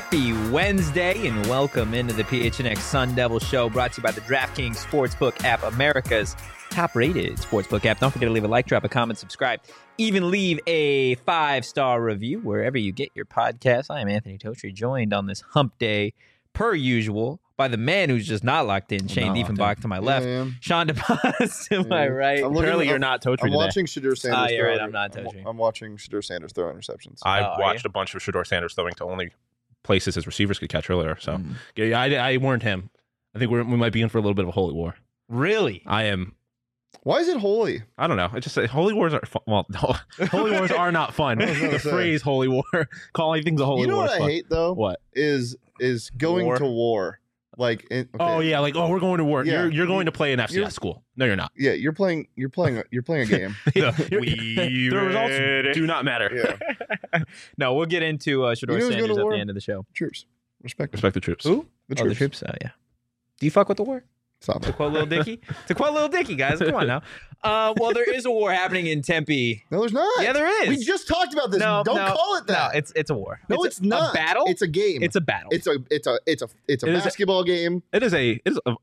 Happy Wednesday and welcome into the PHNX Sun Devil Show, brought to you by the DraftKings Sportsbook app, America's top-rated sportsbook app. Don't forget to leave a like, drop a comment, subscribe, even leave a 5-star review wherever you get your podcast. I am Anthony Totri, joined on this hump day, per usual, by the man who's just not locked in, Shane Diefenbach to my left, Sean DePaz to my right. Apparently you're not Totri I'm today. watching Shedeur Sanders you're throw. right, I'm not Totri. I'm watching Shedeur Sanders throw interceptions. I watched a bunch of Shedeur Sanders throwing to only places his receivers could catch earlier. So yeah, I warned him. I think we might be in for a little bit of a holy war. Really? I am. Why is it holy? I don't know. It just holy wars are fun. Well, no, holy wars are not fun. The phrase "holy war," calling things a holy war. You know what I fun. hate though? What is going to war? Like, oh yeah, like we're going to war. Yeah. You're going to play an FCS school. No, you're not. Yeah, you're playing a game. The results do not matter. Yeah. No, we'll get into Shedeur Sanders at the end of the show. Troops, respect the troops. Who? The The troops. Yeah. Do you fuck with the war? Stop To it. quote Lil Dicky? To quote Lil Dicky, guys. Come on now. Well, there is a war happening in Tempe. No, there's not. Yeah, there is. We just talked about this. No, Don't no, call it that. No, it's a war. No, it's not. A battle? It's a game. It's a battle. It's a basketball game. It is a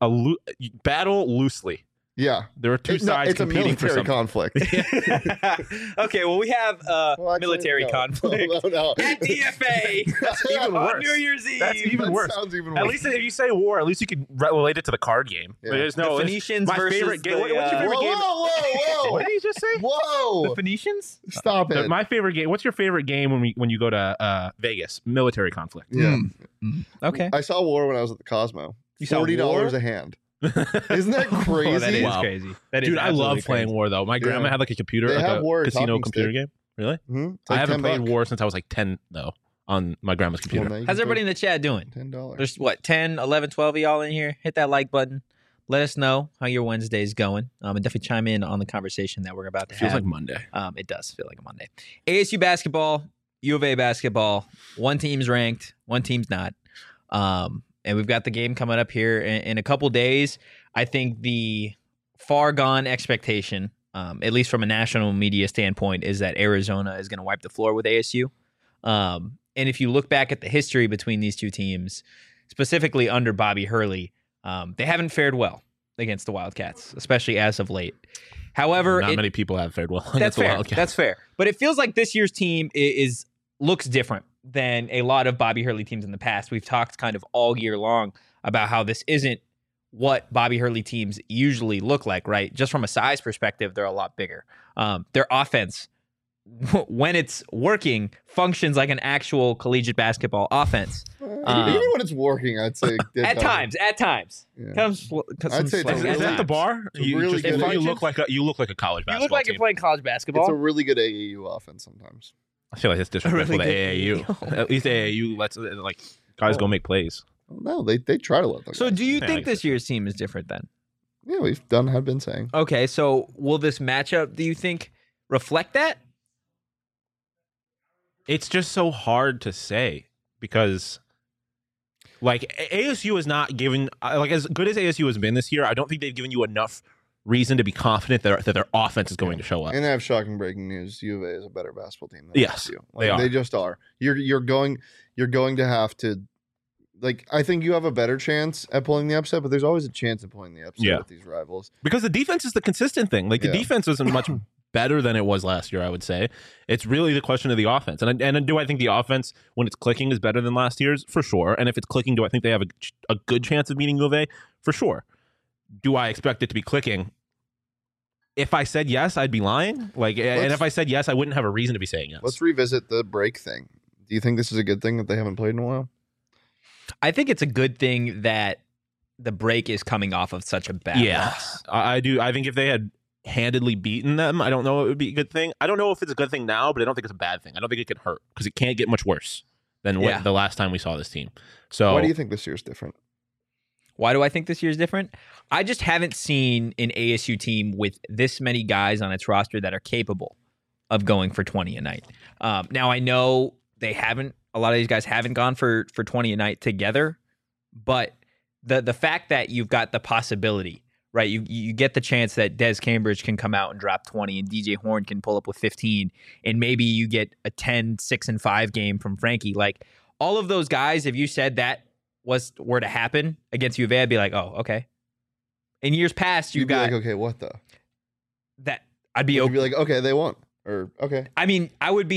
battle loosely. Yeah. There are two sides it's a competing for military something. conflict. Okay, well, we have military conflict No. at DFA That's even on worse. New Year's Eve. That's even That worse. sounds even worse. At least if you say war, at least you can relate it to the card game. Yeah. There's The no Phoenicians my versus favorite game. the, What's your favorite game? Whoa. What did you just say? Whoa. The Phoenicians? Stop it. My favorite game. What's your favorite game when you go to Vegas? Military conflict. Yeah. Okay. I saw war when I was at the Cosmo. You saw $40 war? a hand. Isn't that crazy? Oh, that is Wow. crazy. That is Dude, I absolutely love playing crazy. war though. My grandma had like a computer, They like have a war casino talking computer stick. game. Really? Mhm. It's I like haven't played $10. war since I was like 10 though on my grandma's computer. Well, now you How's can everybody in the chat doing? pay $10. There's what, 10, 11, 12 of y'all in here? Hit that like button. Let us know how your Wednesday's going. And definitely chime in on the conversation that we're about to Feels have. like Monday. It does feel like a Monday. ASU basketball, U of A basketball. One team's ranked, one team's not. And we've got the game coming up here in a couple days. I think the far gone expectation, at least from a national media standpoint, is that Arizona is going to wipe the floor with ASU. And if you look back at the history between these two teams, specifically under Bobby Hurley, they haven't fared well against the Wildcats, especially as of late. However, Not many people have fared well. that's against the fair. Wildcats. That's fair. But it feels like this year's team looks different than a lot of Bobby Hurley teams in the past. We've talked kind of all year long about how this isn't what Bobby Hurley teams usually look like, right? Just from a size perspective, they're a lot bigger. Their offense, when it's working, functions like an actual collegiate basketball offense. Even when it's working, I'd say At times. Yeah. I'd say it's a Is really- that the bar? it's a really good- you look like a college You basketball look like team. you're playing college It's basketball. a really good AAU offense sometimes. I feel like it's disrespectful really to good AAU. At least AAU lets guys go make plays. No, they try to let them. So do you Yeah, I think guess this year's team is different then? Yeah, have been saying. Okay, so will this matchup, do you think, reflect that? It's just so hard to say because ASU is not given as good as ASU has been this year. I don't think they've given you enough reason to be confident that their offense is going to show up. And I have shocking breaking news: U of A is a better basketball team than Yes, ASU. they are. They just are. You're going to have to. I think you have a better chance at pulling the upset, but there's always a chance of pulling the upset with these rivals. Because the defense is the consistent thing. The defense isn't much better than it was last year, I would say. It's really the question of the offense. And do I think the offense, when it's clicking, is better than last year's? For sure. And if it's clicking, do I think they have a good chance of beating U of A? For sure. Do I expect it to be clicking? If I said yes, I'd be lying. And if I said yes, I wouldn't have a reason to be saying yes. Let's revisit the break thing. Do you think this is a good thing that they haven't played in a while? I think it's a good thing that the break is coming off of such a bad loss. I do. I think if they had handedly beaten them, I don't know it would be a good thing. I don't know if it's a good thing now, but I don't think it's a bad thing. I don't think it could hurt because it can't get much worse than the last time we saw this team. So why do you think this year's different? Why do I think this year's different? I just haven't seen an ASU team with this many guys on its roster that are capable of going for 20 a night. Now, I know they haven't. A lot of these guys haven't gone for 20 a night together, but the fact that you've got the possibility, right? You get the chance that Des Cambridge can come out and drop 20 and DJ Horn can pull up with 15, and maybe you get a 10, 6, and 5 game from Frankie. all of those guys, if you said that were to happen against U of A, I'd be like, oh, okay. In years past, You'd be like, okay, what though? That I'd be You'd be like, okay, they won. Or, okay. I mean,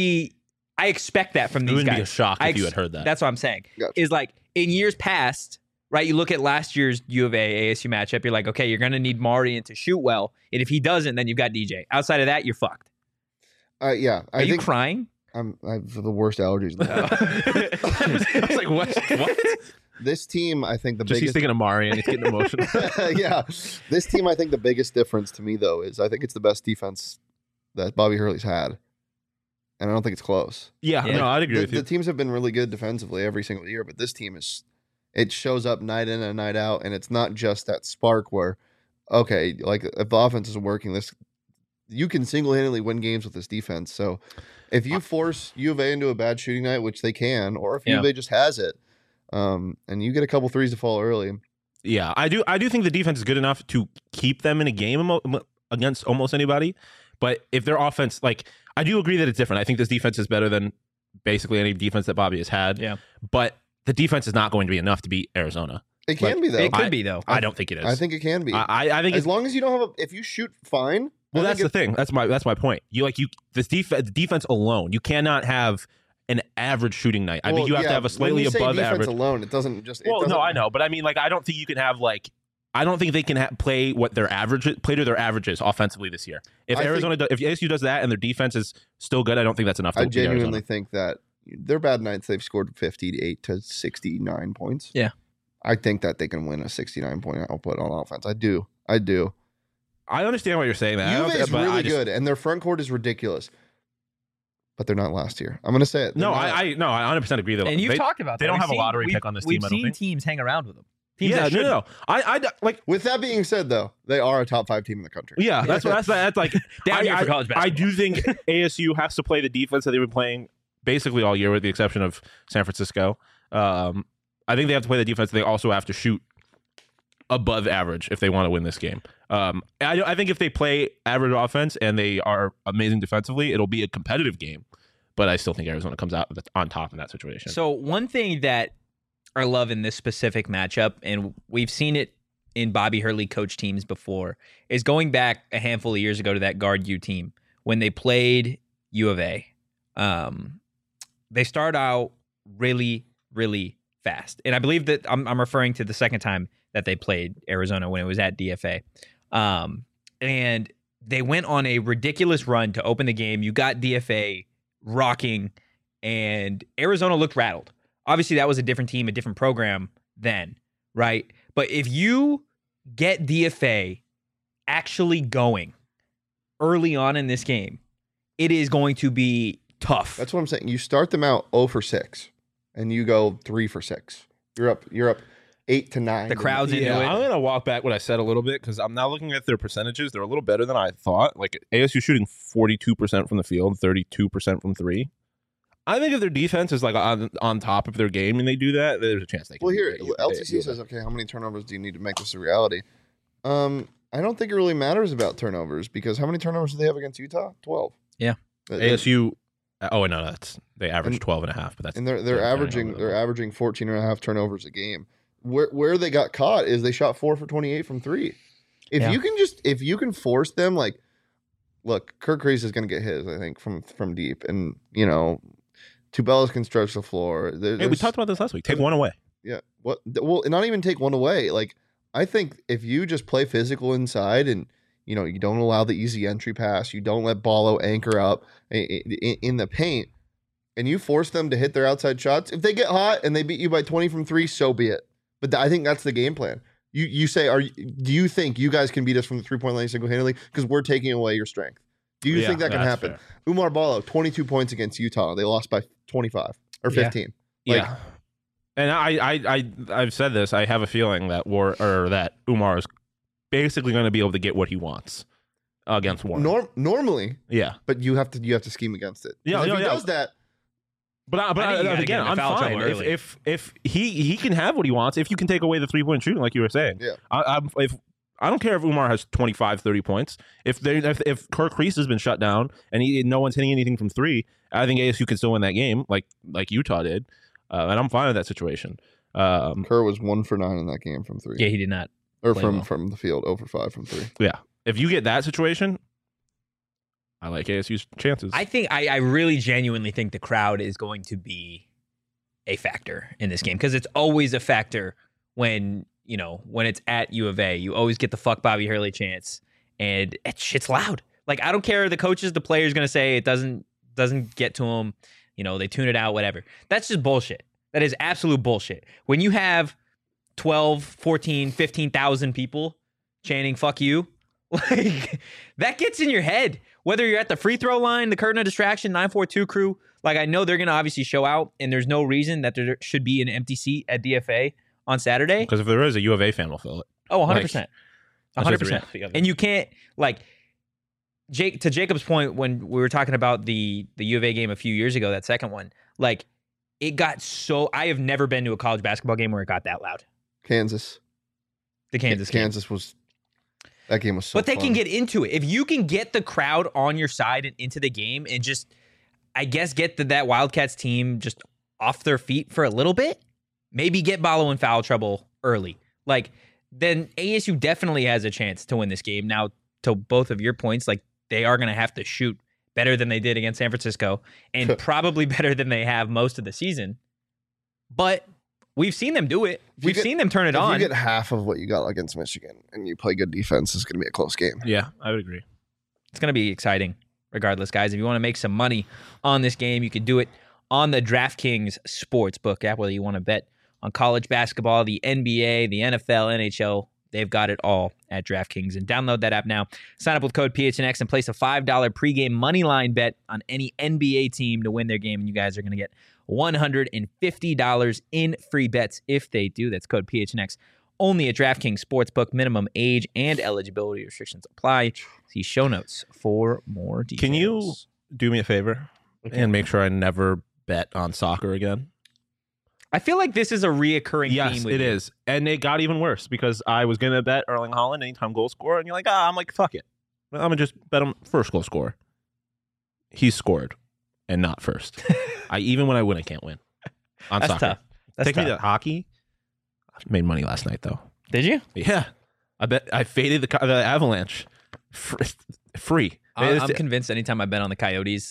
I expect that from It these wouldn't guys. be a shock if you had heard that. That's what I'm saying. Gotcha. Is like in years past, right? You look at last year's U of A ASU matchup. You're like, okay, you're going to need Marian to shoot well, and if he doesn't, then you've got DJ. Outside of that, you're fucked. Yeah. Are you crying? I have the worst allergies. I was like, what? This team, I think He's thinking of Marian. He's getting emotional. Yeah. This team, I think the biggest difference to me, though, is I think it's the best defense that Bobby Hurley's had. And I don't think it's close. Yeah. No, I'd agree with you. The teams have been really good defensively every single year, but this team it shows up night in and night out, and it's not just that spark where, okay, like if the offense isn't working, you can single-handedly win games with this defense. So if you force U of A into a bad shooting night, which they can, or if U of A just has it, and you get a couple threes to fall early. Yeah, I do think the defense is good enough to keep them in a game against almost anybody. But if their offense, like, I do agree that it's different. I think this defense is better than basically any defense that Bobby has had. Yeah. But the defense is not going to be enough to beat Arizona. It can be, though. It could be, though. I don't think it is. I think it can be. I think as long as you don't have if you shoot fine. Well, that's the thing. That's my point. The defense alone, you cannot have an average shooting night. I mean, you have to have a slightly above average alone. It doesn't just. No, I know, but I mean, like, I don't think you can have like. I don't think they can play what their play to their averages offensely this year. If if ASU does that and their defense is still good, I don't think that's enough. I genuinely think that their bad nights, they've scored 58 to 69 points. Yeah, I think that they can win a 69-point output on offense. I do. I understand what you're saying. U of A is really good, and their front court is ridiculous. But they're not last year. I'm going to say it. I 100% agree. Though, and you've talked about that. They don't have a lottery pick on this team. We've seen teams hang around with them. No. I like. With that being said, though, they are a top 5 team in the country. Yeah, that's like down here for college basketball. I do think ASU has to play the defense that they've been playing basically all year, with the exception of San Francisco. I think they have to play the defense. They also have to shoot above average if they want to win this game. I think if they play average offense and they are amazing defensively, it'll be a competitive game. But I still think Arizona comes out on top in that situation. So one thing that I love in this specific matchup, and we've seen it in Bobby Hurley coach teams before, is going back a handful of years ago to that guard U team when they played U of A. They start out really, really fast. And I believe that I'm referring to the second time that they played Arizona when it was at DFA. And they went on a ridiculous run to open the game. You got DFA rocking, and Arizona looked rattled. Obviously, that was a different team, a different program then, right? But if you get DFA actually going early on in this game, it is going to be tough. That's what I'm saying. You start them out 0 for 6, and you go 3 for 6. You're up 8 to 9. The crowd's into it. I'm going to walk back what I said a little bit, because I'm now looking at their percentages. They're a little better than I thought. Like, ASU shooting 42% from the field, 32% from 3. I think if their defense is like on top of their game and they do that, there's a chance they can. Well, here, LTC says, okay, how many turnovers do you need to make this a reality? I don't think it really matters about turnovers, because how many turnovers do they have against Utah? 12. Yeah. ASU, no, they average 12.5, but that's. And they're averaging 14.5 turnovers a game. Where they got caught is they shot 4 for 28 from 3. If you can force them, like, look, Kirk Kreis is going to get his, I think, from deep, and Tubelis can stretch the floor. We talked about this last week. Take one away. Yeah. What? Well, not even take one away. Like, I think if you just play physical inside, and you don't allow the easy entry pass, you don't let Ballo anchor up in the paint, and you force them to hit their outside shots. If they get hot and they beat you by 20 from 3, so be it. But I think that's the game plan. You say, do you think you guys can beat us from the 3-point line single-handedly? Because we're taking away your strength. Do you think that can happen? Fair. Umar Ballo, 22 points against Utah. They lost by 25 or 15. Yeah. And I've said this. I have a feeling that that Umar is basically going to be able to get what he wants against Warren. Normally, yeah. But you have to scheme against it. Yeah, if he does that. But again, I'm fine. If he can have what he wants, if you can take away the 3-point shooting, like you were saying. Yeah. I don't care if Umar has 25, 30 points. If Kirk Kreis has been shut down and no one's hitting anything from 3, I think ASU can still win that game, like Utah did. and I'm fine with that situation. Kerr was 1 for 9 in that game from 3. Yeah, he did not. Or play from well. from the field, 0 for 5 from 3. Yeah, if you get that situation, I like ASU's chances. I think I really genuinely think the crowd is going to be a factor in this game because it's always a factor when it's at U of A. You always get the fuck Bobby Hurley chance, and shit's loud. Like, I don't care the coaches, the players going to say it doesn't get to them. They tune it out, whatever. That's just bullshit. That is absolute bullshit. When you have 12, 14, 15,000 people chanting fuck you, like, that gets in your head. Whether you're at the free throw line, the curtain of distraction, 942 crew, like, I know they're going to obviously show out, and there's no reason that there should be an empty seat at DFA on Saturday. Because if there is, a U of A fan will fill it. Oh, 100%. Like, that's just the 100%. reality of it. And you can't, like, to Jacob's point when we were talking about the U of A game a few years ago, that second one, like, it got so, I have never been to a college basketball game where it got that loud. Kansas. The Kansas game. Kansas was, that game was so But they fun. can get into it. If you can get the crowd on your side and into the game and just, I guess, get that Wildcats team just off their feet for a little bit, maybe get Ballo in foul trouble early, like, then ASU definitely has a chance to win this game. Now, to both of your points, like, they are going to have to shoot better than they did against San Francisco and probably better than they have most of the season. But we've seen them do it. We've seen them turn it on. If you get half of what you got against Michigan and you play good defense, it's going to be a close game. Yeah, I would agree. It's going to be exciting regardless, guys. If you want to make some money on this game, you can do it on the DraftKings Sportsbook app, whether you want to bet on college basketball, the NBA, the NFL, NHL. They've got it all at DraftKings. And download that app now. Sign up with code PHNX and place a $5 pregame moneyline bet on any NBA team to win their game. And you guys are going to get $150 in free bets if they do. That's code PHNX. Only at DraftKings Sportsbook. Minimum age and eligibility restrictions apply. See show notes for more details. Can you do me a favor and make sure I never bet on soccer again? I feel like this is a reoccurring theme. Yes, with it you. is. And it got even worse because I was going to bet Erling Haaland anytime goal scorer. And you're like, I'm like, fuck it. I'm going to just bet him first goal scorer. He scored and not first. Even when I win, I can't win on That's soccer. tough. That's Take tough. me to hockey. I made money last night, though. Did you? Yeah. I faded the Avalanche. Free. I'm convinced anytime I bet on the Coyotes,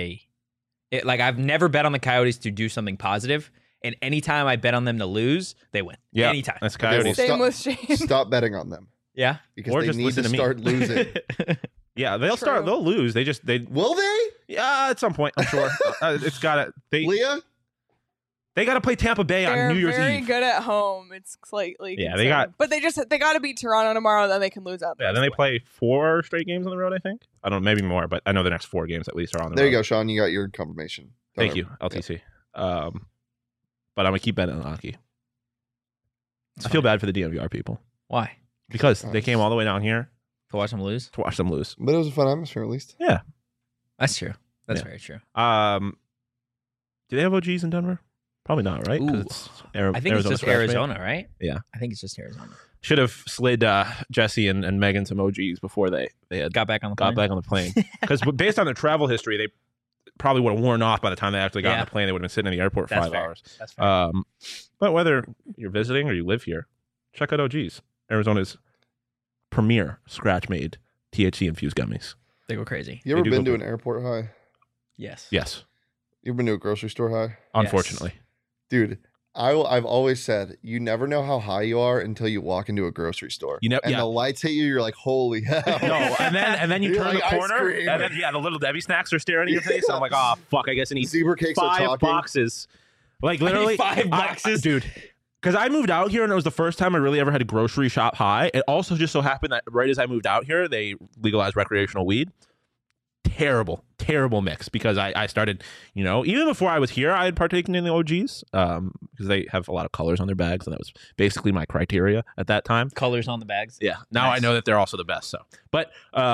I've never bet on the Coyotes to do something positive. And anytime I bet on them to lose, they win. Yeah, Anytime. that's Coyotes. Same with Shane. Stop betting on them Yeah. because Or they just need to listen to me. start losing. Yeah, they'll True. They'll lose. They Will they? yeah, at some point, I'm sure. It's got to. Leah? They got to play Tampa Bay They're on New Year's very Eve. good at home. It's slightly Yeah, they concerning. But they got to beat Toronto tomorrow. Then they can lose out. Yeah, then they play 4 straight games on the road. I think. I don't know, maybe more, but I know the next 4 games at least are on the There road. you go, Sean. You got your confirmation. Thank you, LTC. But I'm gonna keep betting on hockey. I feel bad for the DNVR people Why? because they came all the way down here To watch them lose? to watch them lose. But it was a fun atmosphere, at least. That's true. That's Yeah. very true. Do they have OGs in Denver? Probably not, right? 'Cause Ooh. it's I think it's just scratch made. Arizona, right? Yeah. I think it's just Arizona. Should have slid Jesse and Megan some OGs before they had Got back on the got plane. back on the plane. Because based on their travel history, they probably would have worn off by the time they actually got on Yeah. the plane. They would have been sitting in the airport for That's 5 fair. hours. That's fair. But whether you're visiting or you live here, check out OGs, Arizona's premier scratch-made THC infused gummies. They go crazy. You ever do been go to an airport high? Yes. Yes, You ever been to a grocery store high? unfortunately. Dude, I've always said you never know how high you are until you walk into a grocery store. You know, And yeah. the lights hit you, you're like, holy hell. No, and then you You're turn like, the "Ice corner, cream." and then the little Debbie snacks are staring at your face. And I'm like, oh fuck, I guess I need Zebra cakes are 5 talking. boxes. Like literally 5 boxes? dude. Because I moved out here and it was the first time I really ever had a grocery shop high. It also just so happened that right as I moved out here, they legalized recreational weed. Terrible mix because I started, even before I was here, I had partaken in the OGs because they have a lot of colors on their bags, and that was basically my criteria at that time. Colors on the bags. Yeah. Now Nice. I know that they're also the best. So, but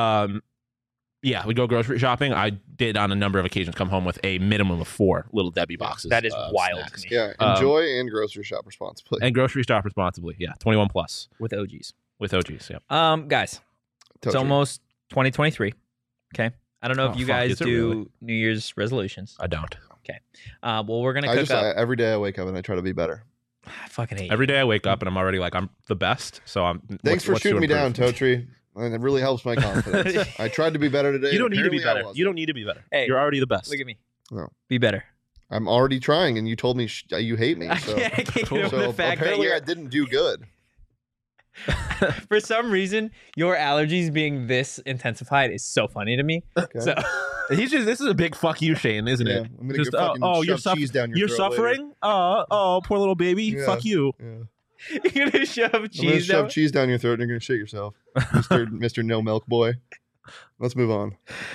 yeah, we go grocery shopping. I did on a number of occasions come home with a minimum of 4 little Debbie boxes. That is of wild snacks. to me. Yeah, enjoy and grocery shop responsibly. And grocery shop responsibly. Yeah, 21 plus With OGs. with OGs. Yeah. Guys, Told it's you. almost 2023. Okay. I don't know Oh, if you fuck, guys is it do really? New Year's resolutions. I don't. Well, we're gonna cook up. Every day I wake up and I try to be better. I fucking hate Every day I wake up and I'm already like, I'm the best. So I'm. Thanks for what's to shooting me down, improve? Totri. And it really helps my confidence. I tried to be better today. You don't need to be apparently I better. wasn't. You don't need to be better. Hey, You're already the best. Look at me. No. Be better. I'm already trying, and you told me you hate me. So, I can't get over so the fact that apparently you're. I didn't do good. For some reason, your allergies being this intensified is so funny to me. Okay. So He's just. This is a big fuck you, Shane, isn't Yeah, it? I'm gonna Just, go fucking you're shove cheese down your You're throat suffering. Oh, poor little baby. Yeah. Fuck you. Yeah. you're gonna shove I'm gonna cheese shove down. cheese down your throat, and you're gonna shit yourself, Mr. No Milk Boy. Let's move on.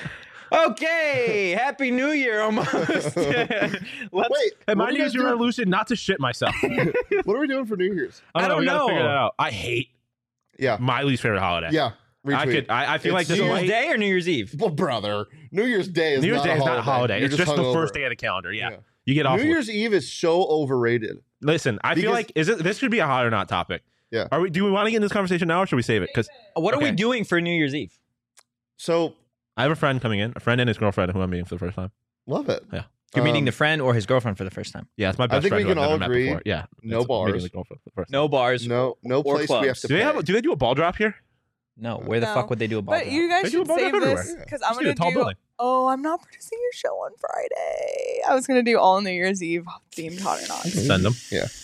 Okay, Happy New Year almost. Let's, Wait, And what my are New you Year's guys doing? resolution not to shit myself. What are we doing for New Year's? I don't We gotta know. figure that out. I hate Yeah, my least favorite holiday. yeah. Retweet. I feel like It's this New is Year's why- Day or New Year's Eve? Well, brother, New Year's Day is New Year's not Day a is not a holiday. You're It's just the hungover. first day of the calendar. Yeah. Yeah. You get off. New Year's Eve is so overrated. Listen, I feel Because- like this should be a hot or not topic. Yeah. Do we want to get in this conversation now or should we save it? Because What are we Okay. doing for New Year's Eve? So I have a friend coming in, a friend and his girlfriend who I'm meeting for the first time. love it. You're meeting Um, the friend or his girlfriend for the first time? Yeah, it's my best think friend we who can I've all never met agree, before. Yeah. no it's bars. meeting the girlfriend for the first time. No bars. No or place we have clubs. to Do they pay. do they do a ball drop here? No. Where the No. fuck would they do a ball? But drop? you They guys do a should ball drop save this everywhere. because I'm Just do gonna a tall do. building. Oh, I'm not producing your show on Friday. I was gonna do all New Year's Eve themed hot or not. Send them.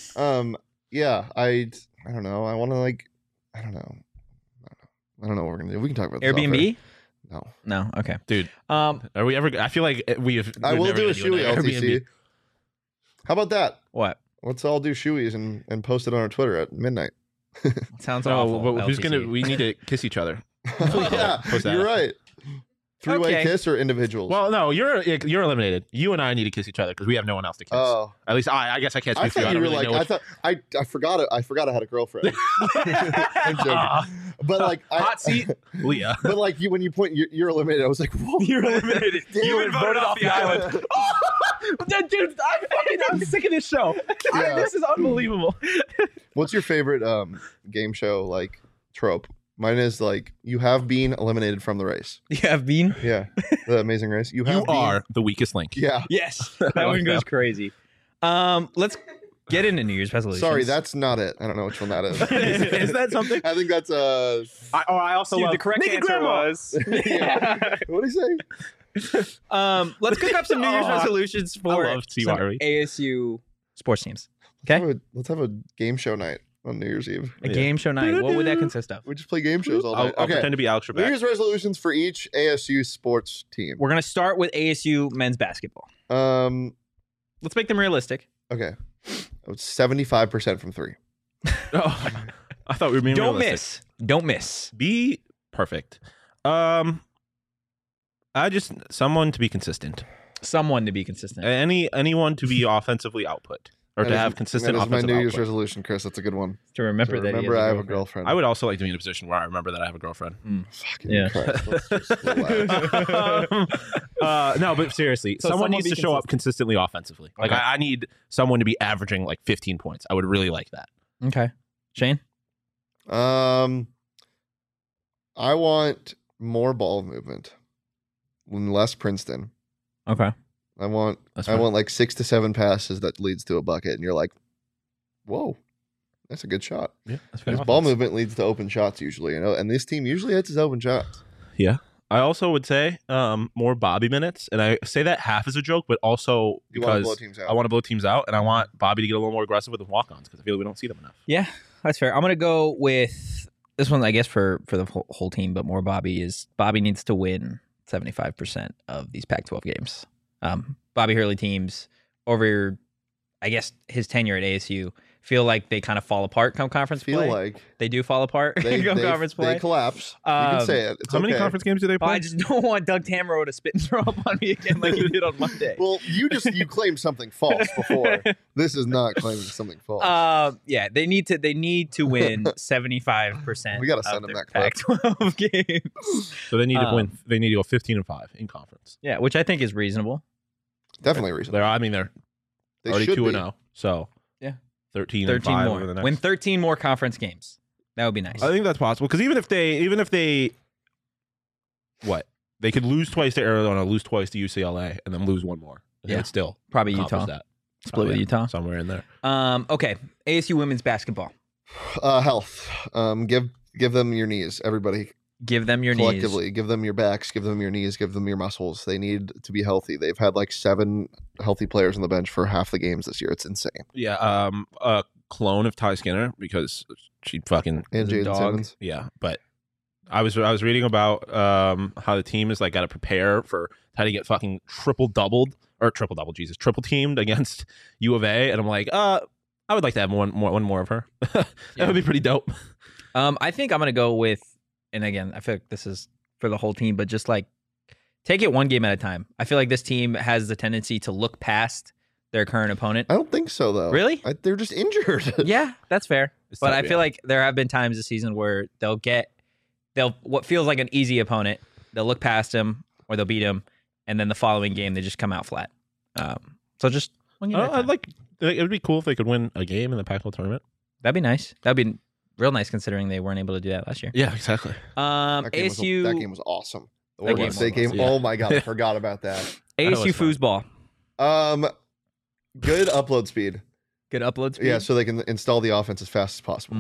Yeah, I don't know. I want to I don't know. I don't know what we're gonna do. We can talk about this off Airbnb? air. No. No. Okay. Dude, Um. are we ever I feel like we've I will never do a gonna shoey an LTC. Airbnb. How about that? What? Let's all do shoeys and post it on our Twitter at midnight. Sounds So, awful. but who's LTC. gonna we need to kiss each other. Yeah, Post that. you're right. Three-way Okay. kiss or individuals? Well, no, you're eliminated. You and I need to kiss each other because we have no one else to kiss. Oh, At least I guess I can't I speak for you. thought I you don't were really like. know I which- thought I forgot it. I forgot I had a girlfriend. I'm joking. But like, Hot seat, Leah. But like you, when you point, you're eliminated. I was like, whoa. You're eliminated. Damn You it. were voted off the island. Dude, I'm sick of this show. Yeah. This is unbelievable. What's your favorite game show trope? Mine is you have been eliminated from the race. You have been? Yeah, the Amazing Race. You have You been, are the weakest link. Yeah. Yes. That one goes crazy. Let's get into New Year's resolutions. Sorry, that's not it. I don't know which one that is. Is that something? I think that's I also Dude, love the correct Naked answer Grandma. was. what did he say? Let's cook up some New Year's Oh, resolutions for love T. some Wiry. ASU sports teams. Okay, Let's have a game show night on New Year's Eve. a Yeah. game show night. What would that consist of? We just play game shows all I'll night. Okay. pretend to be Alex New Trebek. Year's resolutions for each ASU sports team. We're gonna start with ASU men's basketball. Let's make them realistic. Okay. It's 75% from three. Oh, I thought we were being Don't realistic. miss. Don't miss. Be perfect. Someone to be consistent. Someone to be consistent. Anyone to be offensively output or to That is- have consistent That is my offensive New Year's output. resolution, Chris. That's a good one. To remember So that. remember, I have a girlfriend. I would also like to be in a position where I remember that I have a girlfriend. Fucking Yeah. Christ, let's just relax. No, but seriously, So someone someone needs be to show up consistently offensively. Like Okay. I need someone to be averaging like 15 points. I would really like that. Okay. Shane. I want more ball movement, and less Princeton. Okay. I want That's I fine. want 6 to 7 passes that leads to a bucket, and you're like, whoa, that's a good shot. Yeah, that's Because ball movement leads to open shots usually, and this team usually hits its open shots. Yeah. I also would say more Bobby minutes, and I say that half as a joke, but also You want to because blow teams out. I want to blow teams out, and I want Bobby to get a little more aggressive with the walk-ons because I feel like we don't see them enough. Yeah, that's fair. I'm gonna go with this one. I guess for the whole team, but more Bobby is Bobby needs to win 75% of these Pac-12 games. Bobby Hurley teams over, I guess, his tenure at ASU feel like they kind of fall apart come conference feel play. like They do fall apart they, come conference play. they collapse. You can say it. It's How many okay. conference games do they But play? I just don't want Doug Tamaro to spit and throw up on me again like he did on Monday. Well, you claimed something false before. This is not claiming something false. Yeah, they need to win 75%. We gotta send of them their that clip. Pac-12 games. So they need to win. They need to go 15-5 in conference. Yeah, which I think is reasonable. Definitely reasonable. They're They already should 2-0. So Yeah. 13 13 and 5 more. over the next. Win 13 more conference games. That would be nice. I think that's possible because even if they what they could lose twice to Arizona, lose twice to UCLA, and then lose one more. It would still Probably accomplish Utah. that. Split with Utah. Somewhere in there. Okay, ASU women's basketball. Health. Give them your knees, everybody. Give them your Collectively, knees. give them your backs, give them your knees, give them your muscles. They need to be healthy. They've had like 7 healthy players on the bench for half the games this year. It's insane. Yeah, a clone of Ty Skinner because she fucking And Is a Jaden dog. Simmons. yeah. But I was reading about how the team is like got to prepare for how to get fucking triple teamed against U of A, and I'm like, I would like to have one more of her. That would be pretty dope. I think I'm gonna go with, and again, I feel like this is for the whole team, but just like take it one game at a time. I feel like this team has the tendency to look past their current opponent. I don't think so, though. Really? They're just injured. Yeah, that's fair. But tough, I feel like there have been times this season where they'll what feels like an easy opponent, they'll look past him or they'll beat him, and then the following game they just come out flat. So just one game at a time. It would be cool if they could win a game in the Pac-12 tournament. That'd be nice. That'd be real nice considering they weren't able to do that last year. Yeah, exactly. That game ASU that game was awesome. The That Oregon game State was game. awesome. Oh my god, I forgot about that. That ASU was fun. foosball. Good upload speed. Good upload speed. Yeah, so they can install the offense as fast as possible.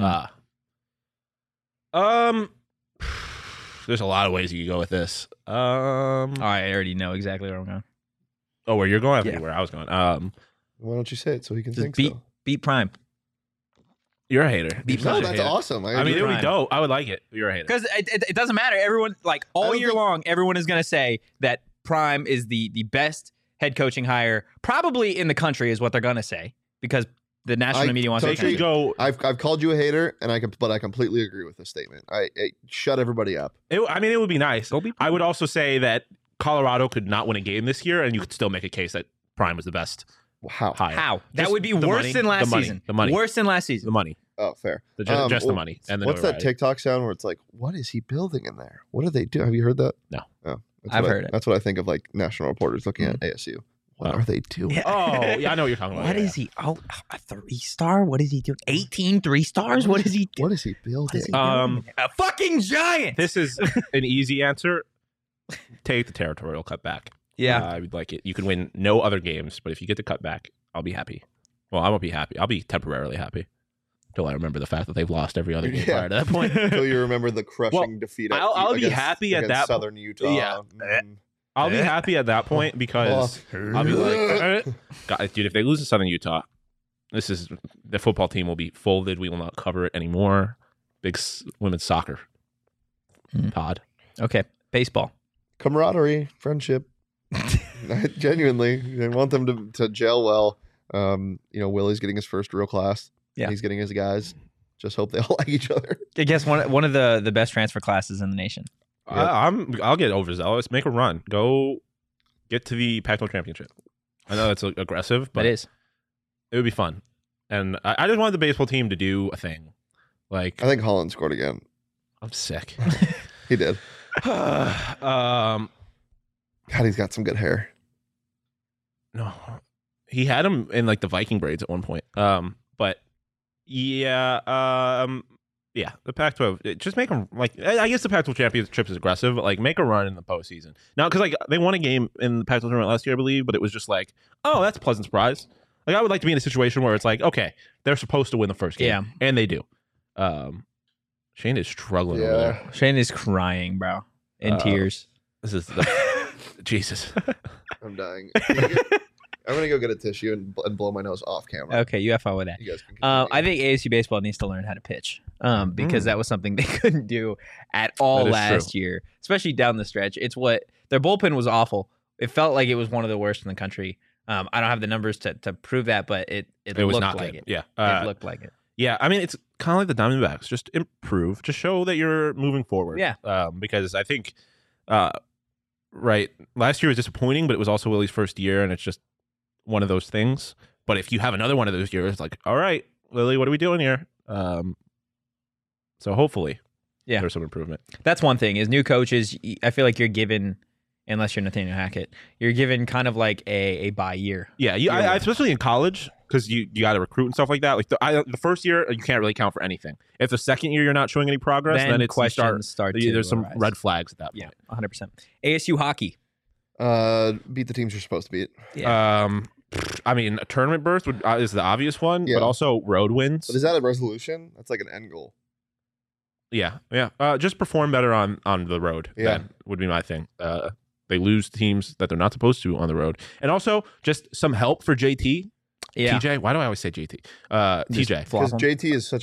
There's a lot of ways you could go with this. All right, I already know exactly where I'm going. Oh, where you're going? I have Yeah. anywhere I was going. Why don't you say it so he can Just think beat so? beat Prime. You're a hater. Beat No, Prime. that's awesome. I mean, it would be Prime. dope. I would like it. You're a hater. Because it doesn't matter. Everyone, like I all don't year think- long, everyone is going to say that Prime is the best head coaching hire probably in the country is what they're going to say because the national media wants They to could go. I've called you a hater, and but I completely agree with this statement. I shut everybody up. It would be nice. Go beat I would also say that Colorado could not win a game this year, and you could still make a case that Prime was the best Wow. hire. How? That Just would be the worse money, than last the money, season. the money. Worse than last season. The money. Oh, fair. Just the Well, money. And the what's that notoriety. TikTok sound where it's like, "What is he building in there? What do they do?" Have you heard that? No. Oh, that's I've what heard it. That's what I think of like national reporters looking at ASU. What Oh. are they doing? Oh, yeah, I know what you're talking about. What Yeah, is he? Oh, a 3-star? What is he doing? 18 3-stars? What is he doing? What is he building? A fucking giant. This is an easy answer. Take the territorial cutback. Yeah. I would like it. You can win no other games, but if you get the cutback, I'll be happy. Well, I won't be happy. I'll be temporarily happy until I remember the fact that they've lost every other game Yeah. prior to that point. So you remember the crushing defeat? I'll be happy at against that Southern Utah. Yeah. Mm. I'll be happy at that point because I'll be like, God, dude, if they lose to Southern Utah, the football team will be folded. We will not cover it anymore. Big women's soccer pod. Okay. Baseball. camaraderie, friendship. Genuinely, I want them to gel well. Willie's getting his first real class. Yeah. He's getting his guys. Just hope they all like each other. I guess one of the best transfer classes in the nation. I'll get overzealous. Make a run. Go get to the Pac-12 championship. I know that's aggressive, but It is. it would be fun. And I just wanted the baseball team to do a thing. Like, I think Holland scored again. I'm sick. He did. God, God, he's got some good hair. no, he had him in like the Viking braids at one point. But yeah, yeah, the Pac-12. Just make them like. I guess the Pac-12 championship is aggressive. But, like, make a run in the postseason now because like they won a game in the Pac-12 tournament last year, I believe. But it was just like, oh, that's a pleasant surprise. Like, I would like to be in a situation where it's like, okay, they're supposed to win the first game, Yeah. and they do. Shane is struggling over there. Shane is crying, bro, in tears. This is the, Jesus. I'm dying. I'm gonna go get a tissue and blow my nose off camera. Okay, you have fun with that. You guys can continue. I think ASU baseball needs to learn how to pitch because that was something they couldn't do at all That is last year, especially down the stretch. It's what their bullpen was awful. It felt like it was one of the worst in the country. I don't have the numbers to prove that, but it It looked was not like good. it. Yeah. It looked like it. Yeah, I mean, it's kind of like the Diamondbacks. Just improve. Just show that you're moving forward. Yeah. Because I think, right, last year was disappointing, but it was also Willie's first year, and it's just one of those things. But if you have another one of those years, like, all right, Willie, what are we doing here? So hopefully, there's some improvement. That's one thing is new coaches. I feel like you're given, unless you're Nathaniel Hackett, you're given kind of like a bye year. Yeah, I especially in college, because you got to recruit and stuff like that. Like the first year, you can't really count for anything. If the second year you're not showing any progress, then it's questions start to there's some arise. red flags at that point. Yeah, 100%. ASU hockey. Beat the teams you're supposed to beat. I mean, a tournament berth is the obvious one, Yeah. but also road wins. But is that a resolution? That's like an end goal. Yeah. Just perform better on the road. Yeah. That would be my thing. They lose teams that they're not supposed to on the road, and also just some help for JT. Yeah. TJ. Why do I always say JT? Just TJ. flop Because 'em. JT is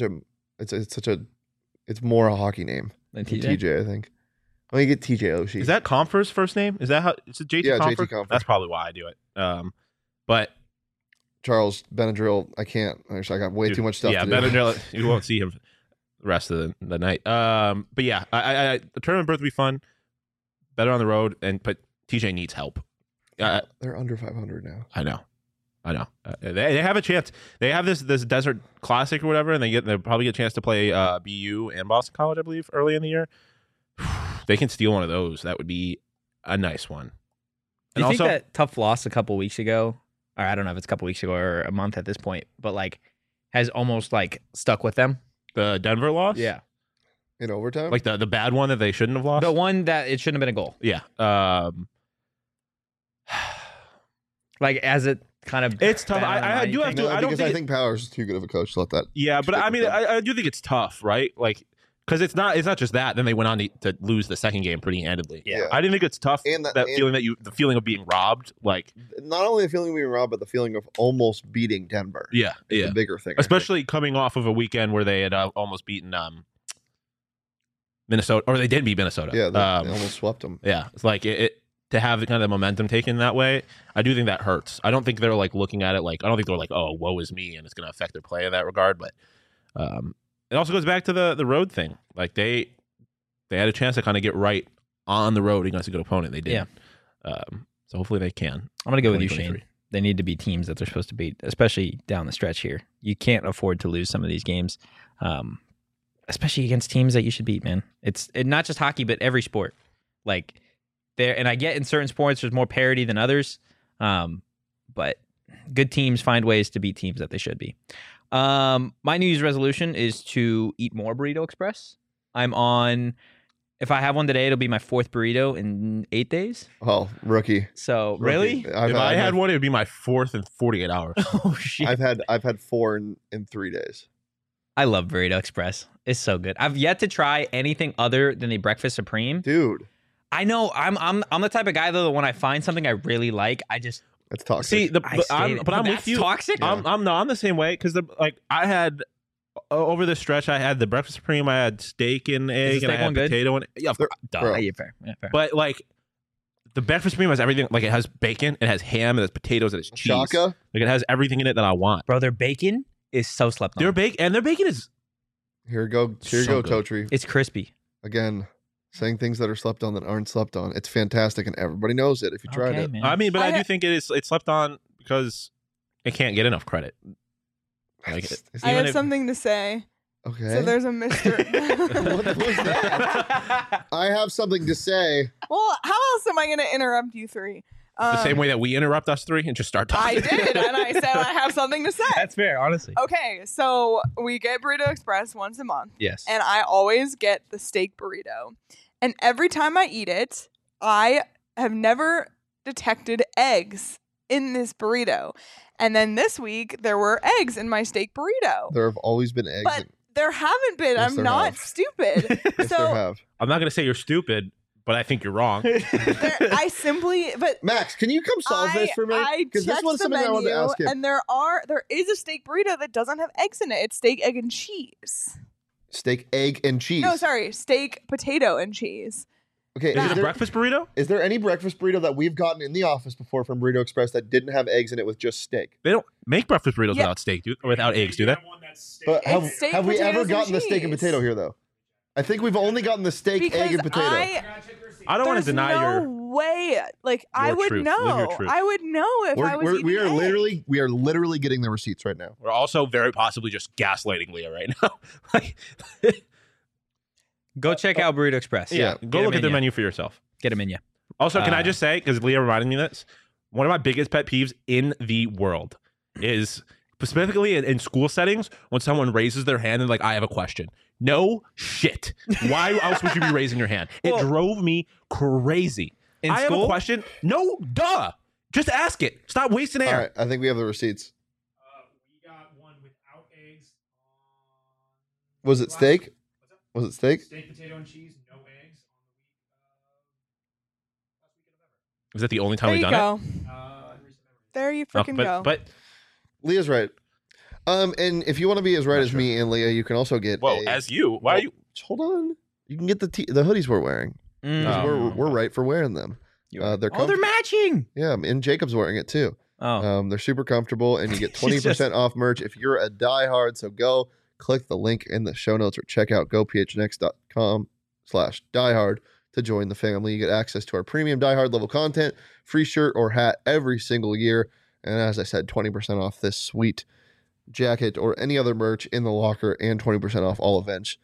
it's more a hockey name Than than TJ. TJ, I think. Let me get TJ Oshie. Is that Comfer's first name? Is that how? Is it JT? Yeah, Comfer? JT Comfer. That's probably why I do it. But Charles Benadryl? I can't. I got way dude, too much stuff yeah, to do. Benadryl, you won't see him the rest of the night. But yeah, I the tournament berth would be fun. Better on the road, but TJ needs help. They're under 500 now. I know. They have a chance. They have this Desert Classic or whatever, and they'll probably get a chance to play BU and Boston College, I believe, early in the year. They can steal one of those. That would be a nice one. Do And you think also, that tough loss a couple weeks ago, or I don't know if it's a couple weeks ago or a month at this point, but like has almost like stuck with them? the Denver loss, In overtime? like the bad one that they shouldn't have lost. The one that it shouldn't have been a goal. Yeah, Like as it kind of It's tough. bad on I the do line, have you to- think? I don't because think I think Powers is too good of a coach to let that. yeah, but stick I mean, with them. I do think it's tough, right? Like, because it's not just that. Then they went on to lose the second game pretty handedly. Yeah. I didn't think it's tough. And that and feeling the feeling of being robbed, like, not only the feeling of being robbed, but the feeling of almost beating Denver. yeah, is yeah. the bigger thing. I think. Especially coming off of a weekend where they had almost beaten Minnesota, or they did beat Minnesota. Yeah, they almost swept them. Yeah, it's like it to have the kind of momentum taken that way. I do think that hurts. I don't think they're like looking at it like I don't think they're like, oh, woe is me, and it's going to affect their play in that regard. But it also goes back to the road thing. Like they had a chance to kind of get right on the road against a good opponent. They did. Yeah. So hopefully they can. I'm gonna go with you, 2023. Shane. They need to be teams that they're supposed to beat, especially down the stretch here. You can't afford to lose some of these games, especially against teams that you should beat. Man, it's not just hockey, but every sport. Like there, and I get in certain sports there's more parity than others, but good teams find ways to beat teams that they should be. My New Year's resolution is to eat more Burrito Express. I'm on. If I have one today, it'll be my 4th burrito in 8 days. Oh, rookie. So Rookie. really, If I had one, it would be my 4th in 48 hours. oh shit! I've had 4 in 3 days. I love Burrito Express. It's so good. I've yet to try anything other than the Breakfast Supreme. Dude, I know I'm the type of guy though that when I find something I really like, I just that's toxic. See, I'm with that's you. toxic. I'm the same way because I had over the stretch I had the breakfast supreme, I had steak and egg, and I steak had one good? potato and yeah, Bro. Yeah, yeah, fair. Yeah, fair. but like the breakfast supreme has everything. Like it has bacon, it has ham, it has potatoes, it has cheese. Shaka? Like it has everything in it that I want. Bro, their bacon is so slept on. Their bacon is Here you go, So good. Totri. It's crispy. Again, saying things that are slept on that aren't slept on. It's fantastic, and everybody knows it if you tried Okay, it. man. I mean, but I I- do think it's slept on because it can't get enough credit. Like It's- it's- I Even have if- something to say. okay. So there's a Mr. What was that? I have something to say. Well, how else am I going to interrupt you three? the same way that we interrupt us three and just start I talking. did, and I said I have something to say. That's fair, honestly. Okay, so we get Burrito Express once a month, Yes. and I always get the steak burrito. And every time I eat it, I have never detected eggs in this burrito. And then this week, there were eggs in my steak burrito. There have always been eggs. But there haven't been. Yes, I'm there not have. stupid. yes, there so have. I'm not gonna say you're stupid, but I think you're wrong. I simply, but Max, can you come solve this for me? I Because this checked was the something I wanted to menu, ask him. and there is a steak burrito that doesn't have eggs in it. It's steak, egg, and cheese. Steak, egg, and cheese. No, sorry, steak, potato, and cheese. Okay, Is it a breakfast burrito? Is there any breakfast burrito that we've gotten in the office before from Burrito Express that didn't have eggs in it with just steak? They don't make breakfast burritos Yeah. without steak, or without eggs, do they? But have, It's steak, have we ever potatoes, and gotten the steak and cheese. potato here though? I think we've only gotten the steak, Because egg, and potato. I don't want to there's deny no your. way. Like I your would truth. Live your know. truth. I would know if I was we eating are egg. we are literally getting the receipts right now. We're also very possibly just gaslighting Leah right now. Like, Go check out Burrito Express. Yeah, go look at their menu for yourself. Get them in you. Also, can I just say, because Leah reminded me of this, one of my biggest pet peeves in the world is specifically in school settings when someone raises their hand and like, I have a question. No shit. Why else would you be raising your hand? It Well- drove me crazy. in I school? have a question. No, duh. Just ask it. Stop wasting air. All right, I think we have the receipts. We got one without eggs. Was it steak? Was it steak? Steak, potato, and cheese. No eggs. Is that the only time There we've you done go. There you freaking go. But Leah's right. And if you want to be as right as me and Leah, you can also get. as you, why are you? Hold on. You can get the hoodies we're wearing. 'Cause Oh. we're right for wearing them. They're Oh, they're matching. yeah, and Jacob's wearing it too. Oh, They're super comfortable, and you get 20% off merch if you're a diehard. So go click the link in the show notes or check out gophnx.com/diehard to join the family. You get access to our premium diehard level content, free shirt or hat every single year, and as I said, 20% off this sweet jacket or any other merch in the locker, and 20% off all events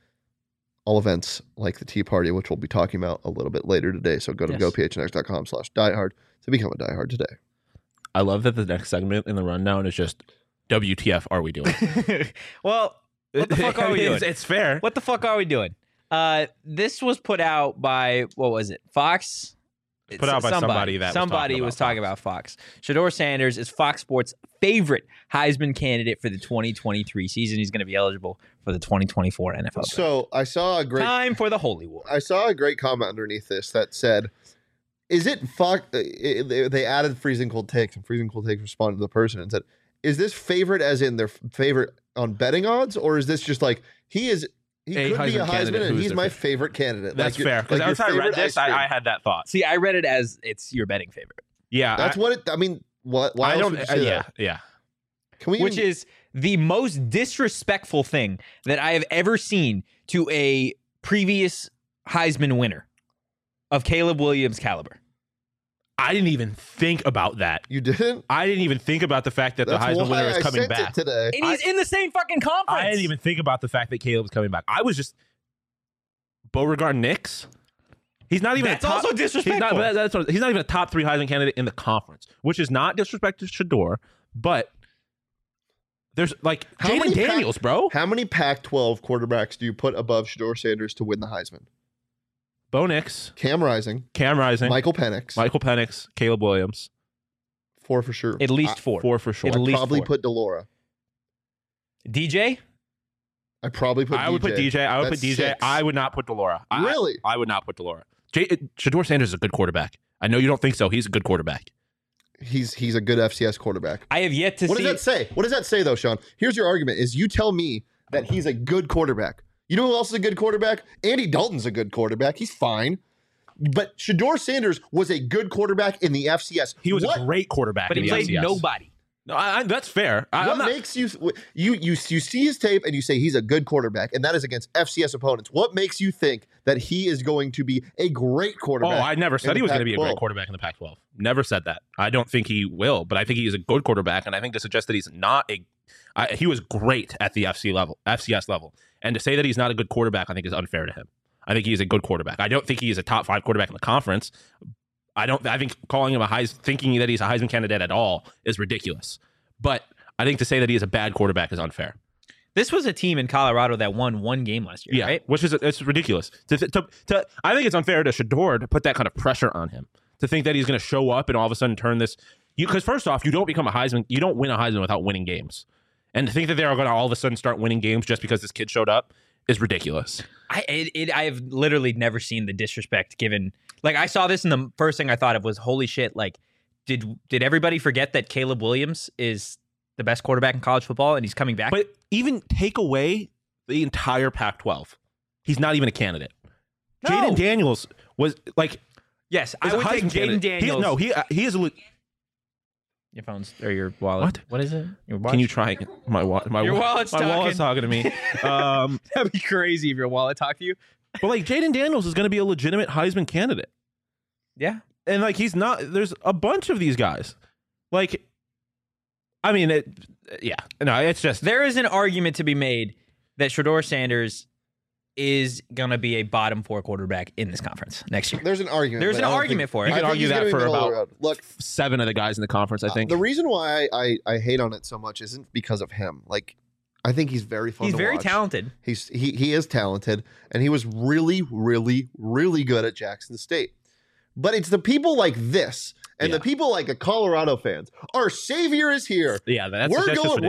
like the Tea Party, which we'll be talking about a little bit later today. So go to gophnx.com/diehard to become a diehard today. I love that the next segment in the rundown is just WTF are we doing? well, what the fuck are we doing? It's fair. What the fuck are we doing? This was put out by, what was it? Fox? Put out by somebody that was talking about Fox. Shedeur Sanders is Fox Sports' favorite Heisman candidate for the 2023 season. He's going to be eligible for the 2024 NFL draft. So I saw a great Time for the Holy War. I saw a great comment underneath this that said, "Is it Fox?" They added freezing cold takes, and freezing cold takes responded to the person and said, "Is this favorite as in their favorite on betting odds, or is this just like he could be a Heisman and he's my favorite candidate?" That's like fair. Because like every time I read this, I had that thought. See, I read it as it's your betting favorite. Yeah, That's what it. I mean, what? Why I else don't. would you say that? Yeah. Can we? Which is the most disrespectful thing that I have ever seen to a previous Heisman winner of Caleb Williams' caliber. I didn't even think about that. You didn't? I didn't even think about the fact that That's the Heisman why winner is I coming sent back it today. And he's in the same fucking conference. I didn't even think about the fact that Caleb's coming back. I was just Beauregard Nix. He's not even That's a top, also disrespectful. He's not even a top 3 Heisman candidate in the conference, which is not disrespect to Shedeur, but there's like How many Jaden Daniels, bro. How many Pac-12 quarterbacks do you put above Shedeur Sanders to win the Heisman? Bo Nix, Cam Rising, Michael Penix, Caleb Williams. 4 for sure. At least 4. 4 for sure. At I'd least probably 4. put Delora. DJ? I probably put. I would put DJ. I would That's put DJ. 6. I would not put Delora. Really? I would not put Delora. Shedeur Sanders is a good quarterback. I know you don't think so. He's a good quarterback. He's a good FCS quarterback. I have yet to What see. does that say? What does that say though, Sean? Here's your argument: is you tell me that he's a good quarterback. You know who else is a good quarterback? Andy Dalton's a good quarterback. He's fine. But Shedeur Sanders was a good quarterback in the FCS. He was a great quarterback, But in he the played FCS. nobody. No, that's fair. What makes you see his tape and you say he's a good quarterback, and that is against FCS opponents? What makes you think that he is going to be a great Oh, quarterback? I never said in he the was going to be a great Pac-12? quarterback in the Pac-12. Never said that. I don't think he will, but I think he is a good quarterback, and I think to suggest that he's not he was great at the FCS level, and to say that he's not a good quarterback, I think is unfair to him. I think he is a good quarterback. I don't think he is a top 5 quarterback in the conference. I think calling him thinking that he's a Heisman candidate at all is ridiculous. But I think to say that he is a bad quarterback is unfair. This was a team in Colorado that won 1 game last year, right? Which is it's ridiculous. I think it's unfair to Shedeur to put that kind of pressure on him, to think that he's going to show up and all of a sudden turn this. Because first off, you don't win a Heisman without winning games, and to think that they are going to all of a sudden start winning games just because this kid showed up is ridiculous. I have literally never seen the disrespect given. Like, I saw this, and the first thing I thought of was, holy shit, like, did everybody forget that Caleb Williams is the best quarterback in college football and he's coming back? But even take away the entire Pac-12, he's not even a candidate. No. Jaden Daniels was like, yes, is I a would take Heisman Jaden candidate. Daniels. He is a. Your phone's or your wallet. What? What is it? Your watch? Can you try my Your wallet's my wallet's talking to me. That'd be crazy if your wallet talked to you. But like Jaden Daniels is going to be a legitimate Heisman candidate. Yeah. And like he's not. There's a bunch of these guys. Like, I mean, it's just There is an argument to be made that Shedeur Sanders is gonna be a bottom 4 quarterback in this conference next year. There's an argument. There's but an I don't argument think- for it. You I can think argue he's that gonna be for middle of the about road. Look, 7 of the guys in the conference. I think the reason why I hate on it so much isn't because of him. Like, I think he's very fun. He's to very watch. talented. He is talented, and he was really, really, really good at Jackson State. But it's the people like this and the people like the Colorado fans. Our savior is here. Yeah, that's We're just gonna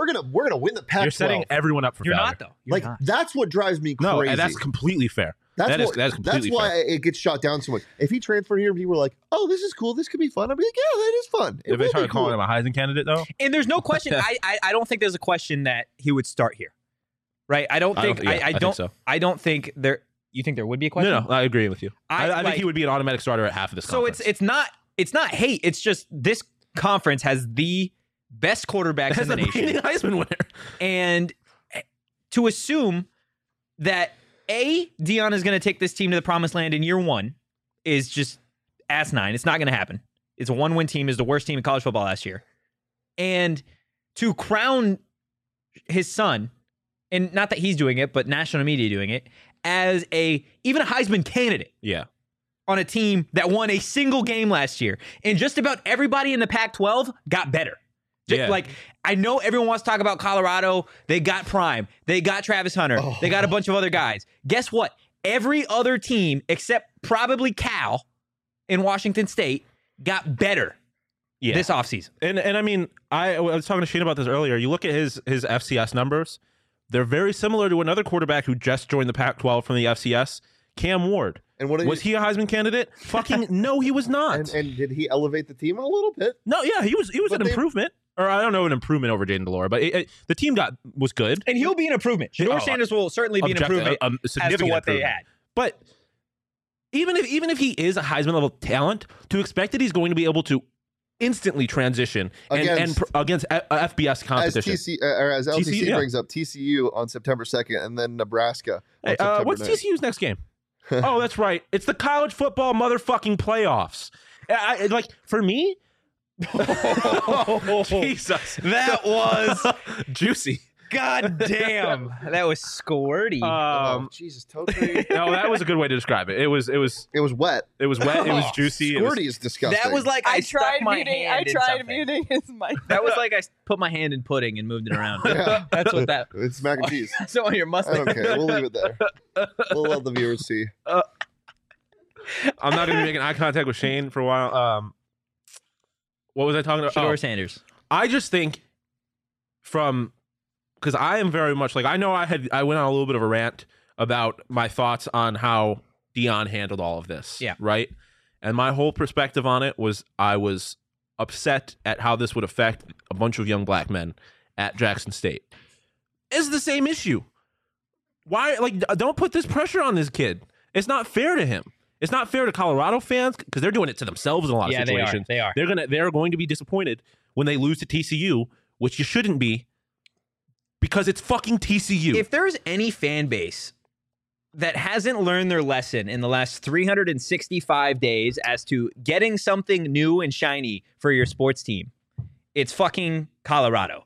win the Pac-12. You're setting everyone up for You're failure. not though. You're Like not. that's what drives me crazy. No, and that's completely fair. That's completely why fair. it gets shot down so much. If he transferred here and people were like, "Oh, this is cool. This could be fun," I'd be like, "Yeah, that is fun." If they started calling him a Heisman candidate, though, And there's no question. I don't think there's a question that he would start here, right? I don't think so. I don't think there. You think there would be a question? No, I agree with you. I think he would be an automatic starter at half of this. So conference. it's not hate. It's just this conference has the best quarterbacks in the nation, Heisman winner, and to assume that Deion is going to take this team to the promised land in year one is just asinine. It's not going to happen. It's a 1-win team. Is the worst team in college football last year, and to crown his son, and not that he's doing it, but national media doing it as even a Heisman candidate. Yeah. On a team that won a single game last year, and just about everybody in the Pac-12 got better. Yeah. Like, I know everyone wants to talk about Colorado. They got Prime. They got Travis Hunter. They got a bunch of other guys. Guess what? Every other team, except probably Cal in Washington State, got better this offseason. And I mean, I was talking to Shane about this earlier. You look at his FCS numbers. They're very similar to another quarterback who just joined the Pac-12 from the FCS, Cam Ward. And was he a Heisman candidate? Fucking no, he was not. And did he elevate the team a little bit? No, yeah, he was an improvement. Or I don't know, an improvement over Jayden DeLore, but the team was good. And he'll be an improvement. Shedeur Sanders will certainly be an improvement as to what they had. But even if he is a Heisman level talent, to expect that he's going to be able to instantly transition against FBS competition. As LTC TCU, brings up, TCU on September 2nd, and then Nebraska on September what's 9th. TCU's next game? Oh, that's right. It's the college football motherfucking playoffs. For me, Jesus, that was juicy. God damn, that was squirty. Jesus, totally. No, that was a good way to describe it. It was wet. It was wet. It was juicy. Squirty is disgusting. That was like I tried muting his mic. That was like I put my hand in pudding and moved it around. Yeah. That's what that. It's mac and cheese. So on your mustache. I don't care. We'll leave it there. We'll let the viewers see. I'm not going to be making eye contact with Shane for a while. What was I talking about? Shedeur Sanders. I just think because I am very much like, I know I went on a little bit of a rant about my thoughts on how Deion handled all of this. Yeah. Right. And my whole perspective on it was I was upset at how this would affect a bunch of young black men at Jackson State. It's the same issue. Why? Don't put this pressure on this kid. It's not fair to him. It's not fair to Colorado fans because they're doing it to themselves in a lot of situations. They are. They're going to be disappointed when they lose to TCU, which you shouldn't be, because it's fucking TCU. If there's any fan base that hasn't learned their lesson in the last 365 days as to getting something new and shiny for your sports team, it's fucking Colorado.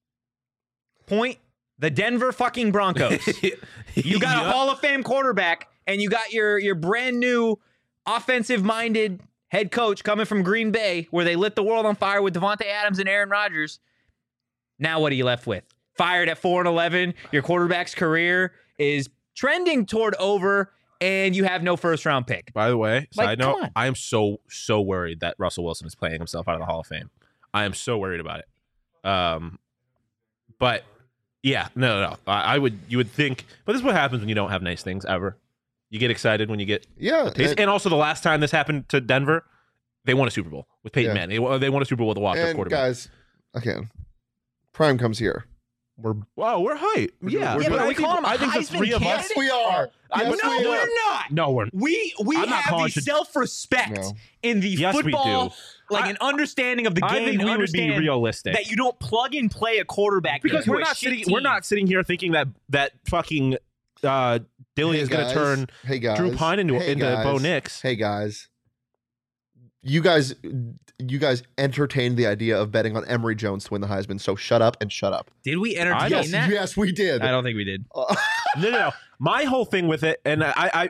Point the Denver fucking Broncos. You got a Hall of Fame quarterback, and you got your brand new offensive-minded head coach coming from Green Bay, where they lit the world on fire with Devontae Adams and Aaron Rodgers. Now what are you left with? Fired at 4-11. Your quarterback's career is trending toward over, and you have no first-round pick. By the way, side note, come on. I am so worried that Russell Wilson is playing himself out of the Hall of Fame. I am so worried about it. But yeah, no. You would think, but this is what happens when you don't have nice things ever. You get excited when you get a taste. And also the last time this happened to Denver, they won a Super Bowl with Peyton Manning. They won a Super Bowl with a walk-up quarterback. Guys, again, Prime comes here. We're hyped. Yeah, but are we calling him a Heisman candidate? Yes, we are. We're not. No, we're We have the self-respect in the football, an understanding of the game. I think we would be realistic that you don't plug and play a quarterback because we're not sitting here thinking that fucking Dilly is going to turn Drew Pine into Bo Nix. Hey guys, you guys entertained the idea of betting on Emory Jones to win the Heisman. So shut up and shut up. Did we entertain that? Yes, we did. I don't think we did. No. My whole thing with it, and I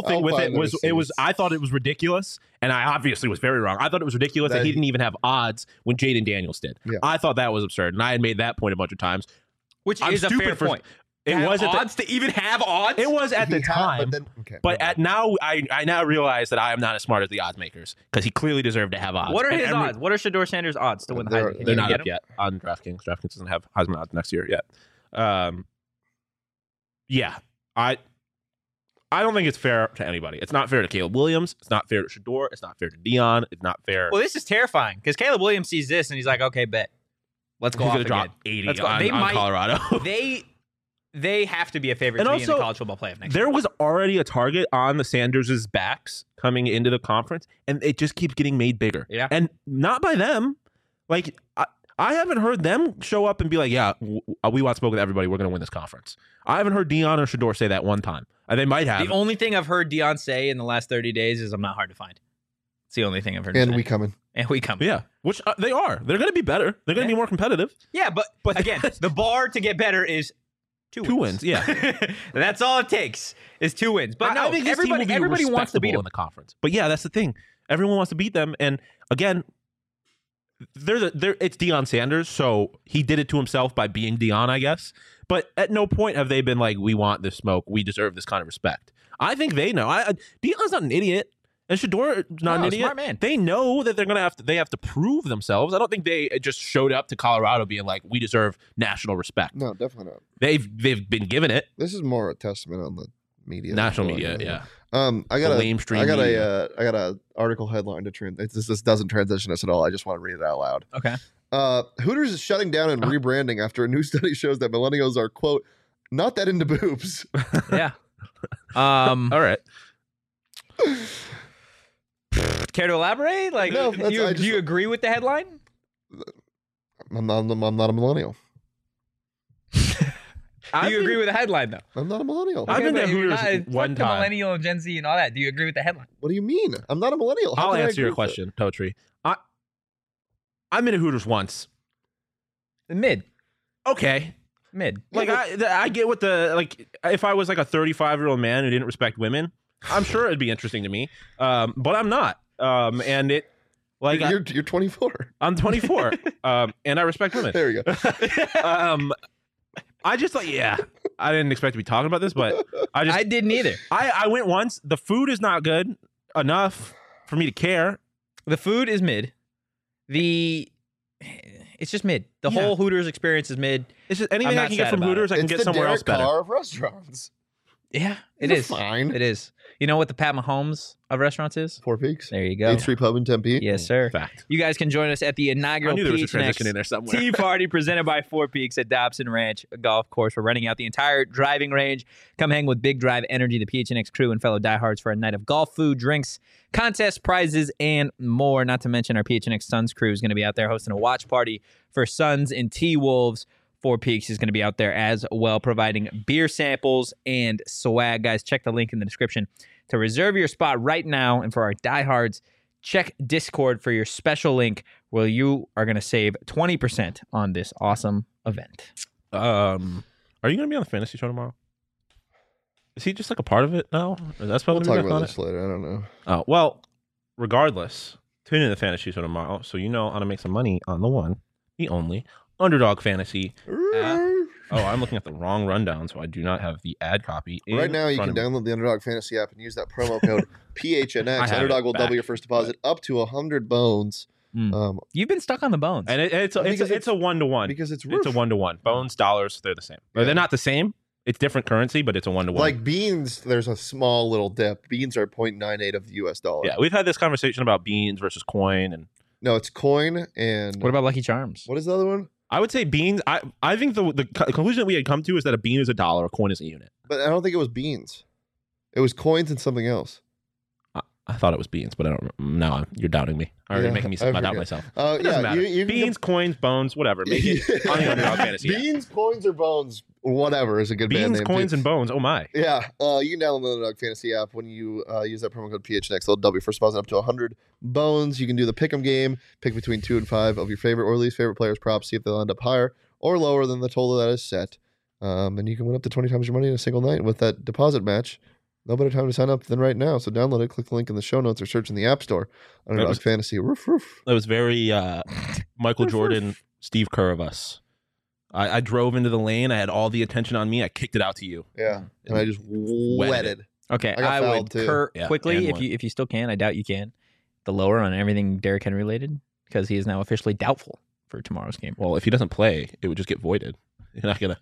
thought it was ridiculous, and I obviously was very wrong. I thought it was ridiculous that he didn't even have odds when Jaden Daniels did. Yeah. I thought that was absurd, and I had made that point a bunch of times. Which is a fair point. It have was odds to even have odds. It was at the He had- time. but then okay. But at now, I now realize that I am not as smart as the odds makers because he clearly deserved to have odds. What are And his odds? What are Shador Sanders' odds to win the They're- Heisman? Can They're you not get up him? yet on DraftKings. DraftKings doesn't have Heisman odds next year yet. Yeah, I don't think it's fair to anybody. It's not fair to Caleb Williams. It's not fair to Shador. It's not fair to Dion. It's not fair. Well, this is terrifying because Caleb Williams sees this and he's like, okay, bet. Let's go He's off going to again. drop 80 Let's go. on, They on might- Colorado. They have to be a favorite And to be in the also, college football playoff next year. There was already a target on the Sanders' backs coming into the conference, and it just keeps getting made bigger. Yeah. And not by them. Like, I haven't heard them show up and be like, yeah, we want smoke with everybody. We're going to win this conference. I haven't heard Dion or Shador say that one time. They might have. The only thing I've heard Dion say in the last 30 days is I'm not hard to find. It's the only thing I've heard him and say. we coming. And we come. Yeah, which they are. They're going to be better. They're going to be more competitive. Yeah, but again, the bar to get better is two wins. Yeah. That's all it takes is 2 wins. But no, I think this team will everybody be wants to beat respectable them. in the conference. But yeah, that's the thing. Everyone wants to beat them. And again, it's Deion Sanders, so he did it to himself by being Deion, I guess. But at no point have they been like, we want this smoke. We deserve this kind of respect. I think they know. Deion's not an idiot. And Shador's not an idiot. Smart man. They know that they have to prove themselves. I don't think they just showed up to Colorado being like, we deserve national respect. No, definitely not. They've been given it. This is more a testament on the media. National than media, anything. yeah. I got The a lamestream I got media. a article headline to this doesn't transition us at all. I just want to read it out loud. Okay. Hooters is shutting down and rebranding after a new study shows that millennials are, quote, not that into boobs. Yeah. All right. Care to elaborate? Like, No, do you agree with the headline? I'm not a millennial. Do you agree with the headline though? I'm not a millennial. I've been but to you're Hooters not- one fuck the time. millennial and Gen Z and all that. Do you agree with the headline? What do you mean? I'm not a millennial. How I'll can I answer your agree with question, Totri. I've been to Hooters once. Mid. Okay. Mid. Like I get what if I was like a 35-year-old man who didn't respect women, I'm sure it'd be interesting to me. But I'm not. And it like You're 24. I'm 24. And I respect women. There you go. I just I didn't expect to be talking about this, but I didn't either. I went once. The food is not good enough for me to care. The food is mid. It's just mid. The Yeah. whole Hooters experience is mid. It's just anything I'm I not can get sad from about Hooters, I can It's get the somewhere Derek else better. Carr of restaurants. Yeah, it It's is. fine. It is. You know what the Pat Mahomes of restaurants is? Four Peaks. There you go. 8th Street Pub in Tempe. Yes, sir. Fact. You guys can join us at the I inaugural knew there was a PHNX transition in there somewhere. Tea Party presented by Four Peaks at Dobson Ranch Golf Course. We're renting out the entire driving range. Come hang with Big Drive Energy, the PHNX crew, and fellow diehards for a night of golf, food, drinks, contests, prizes, and more. Not to mention our PHNX Suns crew is going to be out there hosting a watch party for Suns and T-Wolves. Four Peaks is going to be out there as well, providing beer samples and swag. Guys, check the link in the description to reserve your spot right now. And for our diehards, check Discord for your special link where you are going to save 20% on this awesome event. Are you going to be on the fantasy show tomorrow? Is he just like a part of it now? Is that supposed We'll to be talk back about on this later. I don't know. Oh, well, regardless, tune in to the fantasy show tomorrow so you know how to make some money on the one, the only, Underdog Fantasy. Oh, I'm looking at the wrong rundown, so I do not have the ad copy. Right now, you front can of me. download the Underdog Fantasy app and use that promo code I PHNX. have Underdog it will back, double your first deposit up to 100 bones. Mm. You've been stuck on the bones. And it's a 1-to-1. Because it's It's a 1-to-1. Bones, dollars, they're the same. Yeah. They're not the same. It's different currency, but it's a 1-to-1. Like beans, there's a small little dip. Beans are 0.98 of the US dollar. Yeah, we've had this conversation about beans versus coin, and No, it's coin and What about Lucky Charms? what is the other one? I would say beans. I think the conclusion that we had come to is that a bean is $1, a coin is a unit. But I don't think it was beans. It was coins and something else. I thought it was beans, but I don't. Now you're doubting me. Already Yeah, making me I doubt forget. myself. It Doesn't matter. You can Beans, coins, bones, whatever. Make it on the Underdog Fantasy app. Beans, coins, or bones, whatever is a good band Beans, name. coins, too. and bones. Oh my! Yeah, you can download the Underdog Fantasy app when you use that promo code PHNX. They'll double your first deposit up to 100 bones. You can do the pick'em game, pick between 2 and 5 of your favorite or least favorite players' props, see if they'll end up higher or lower than the total that is set. And you can win up to 20 times your money in a single night with that deposit match. No better time to sign up than right now. So download it, click the link in the show notes, or search in the App Store. Underdog was- Fantasy. Roof, roof. That was very Michael Jordan, Steve Kerr of us. I drove into the lane. I had all the attention on me. I kicked it out to you. Yeah, and I just wetted. Okay, I got I fouled, would too. Kurt Yeah, quickly and if one. you still can. I doubt you can. The lower on everything Derrick Henry related because he is now officially doubtful for tomorrow's game. Well, if he doesn't play, it would just get voided. He's not gonna.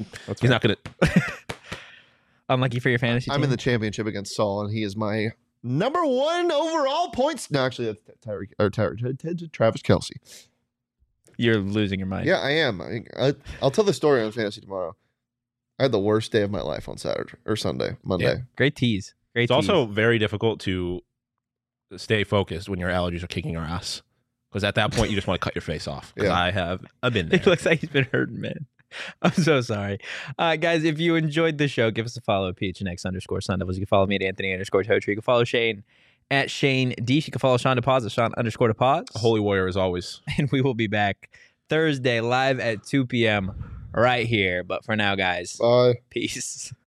Unlucky for your fantasy. I'm team. in the championship against Saul, and he is my number 1 overall points. No, actually, that's Travis Kelce. You're losing your mind. Yeah, I am. I'll tell the story on fantasy tomorrow. I had the worst day of my life on Saturday or Monday. Yeah. Great tease. Great. It's also very difficult to stay focused when your allergies are kicking your ass. Because at that point, you just want to cut your face off. Because Yeah. I've been there. It looks like he's been hurting, man. I'm so sorry. Guys, if you enjoyed the show, give us a follow at PHNX_Sun Devils. You can follow me at Anthony_Totri. You can follow Shane at Shane Deesh. You can follow Sean DePaz at Sean_DePaz. A holy warrior as always. And we will be back Thursday live at 2 p.m. right here. But for now, guys, Bye. peace.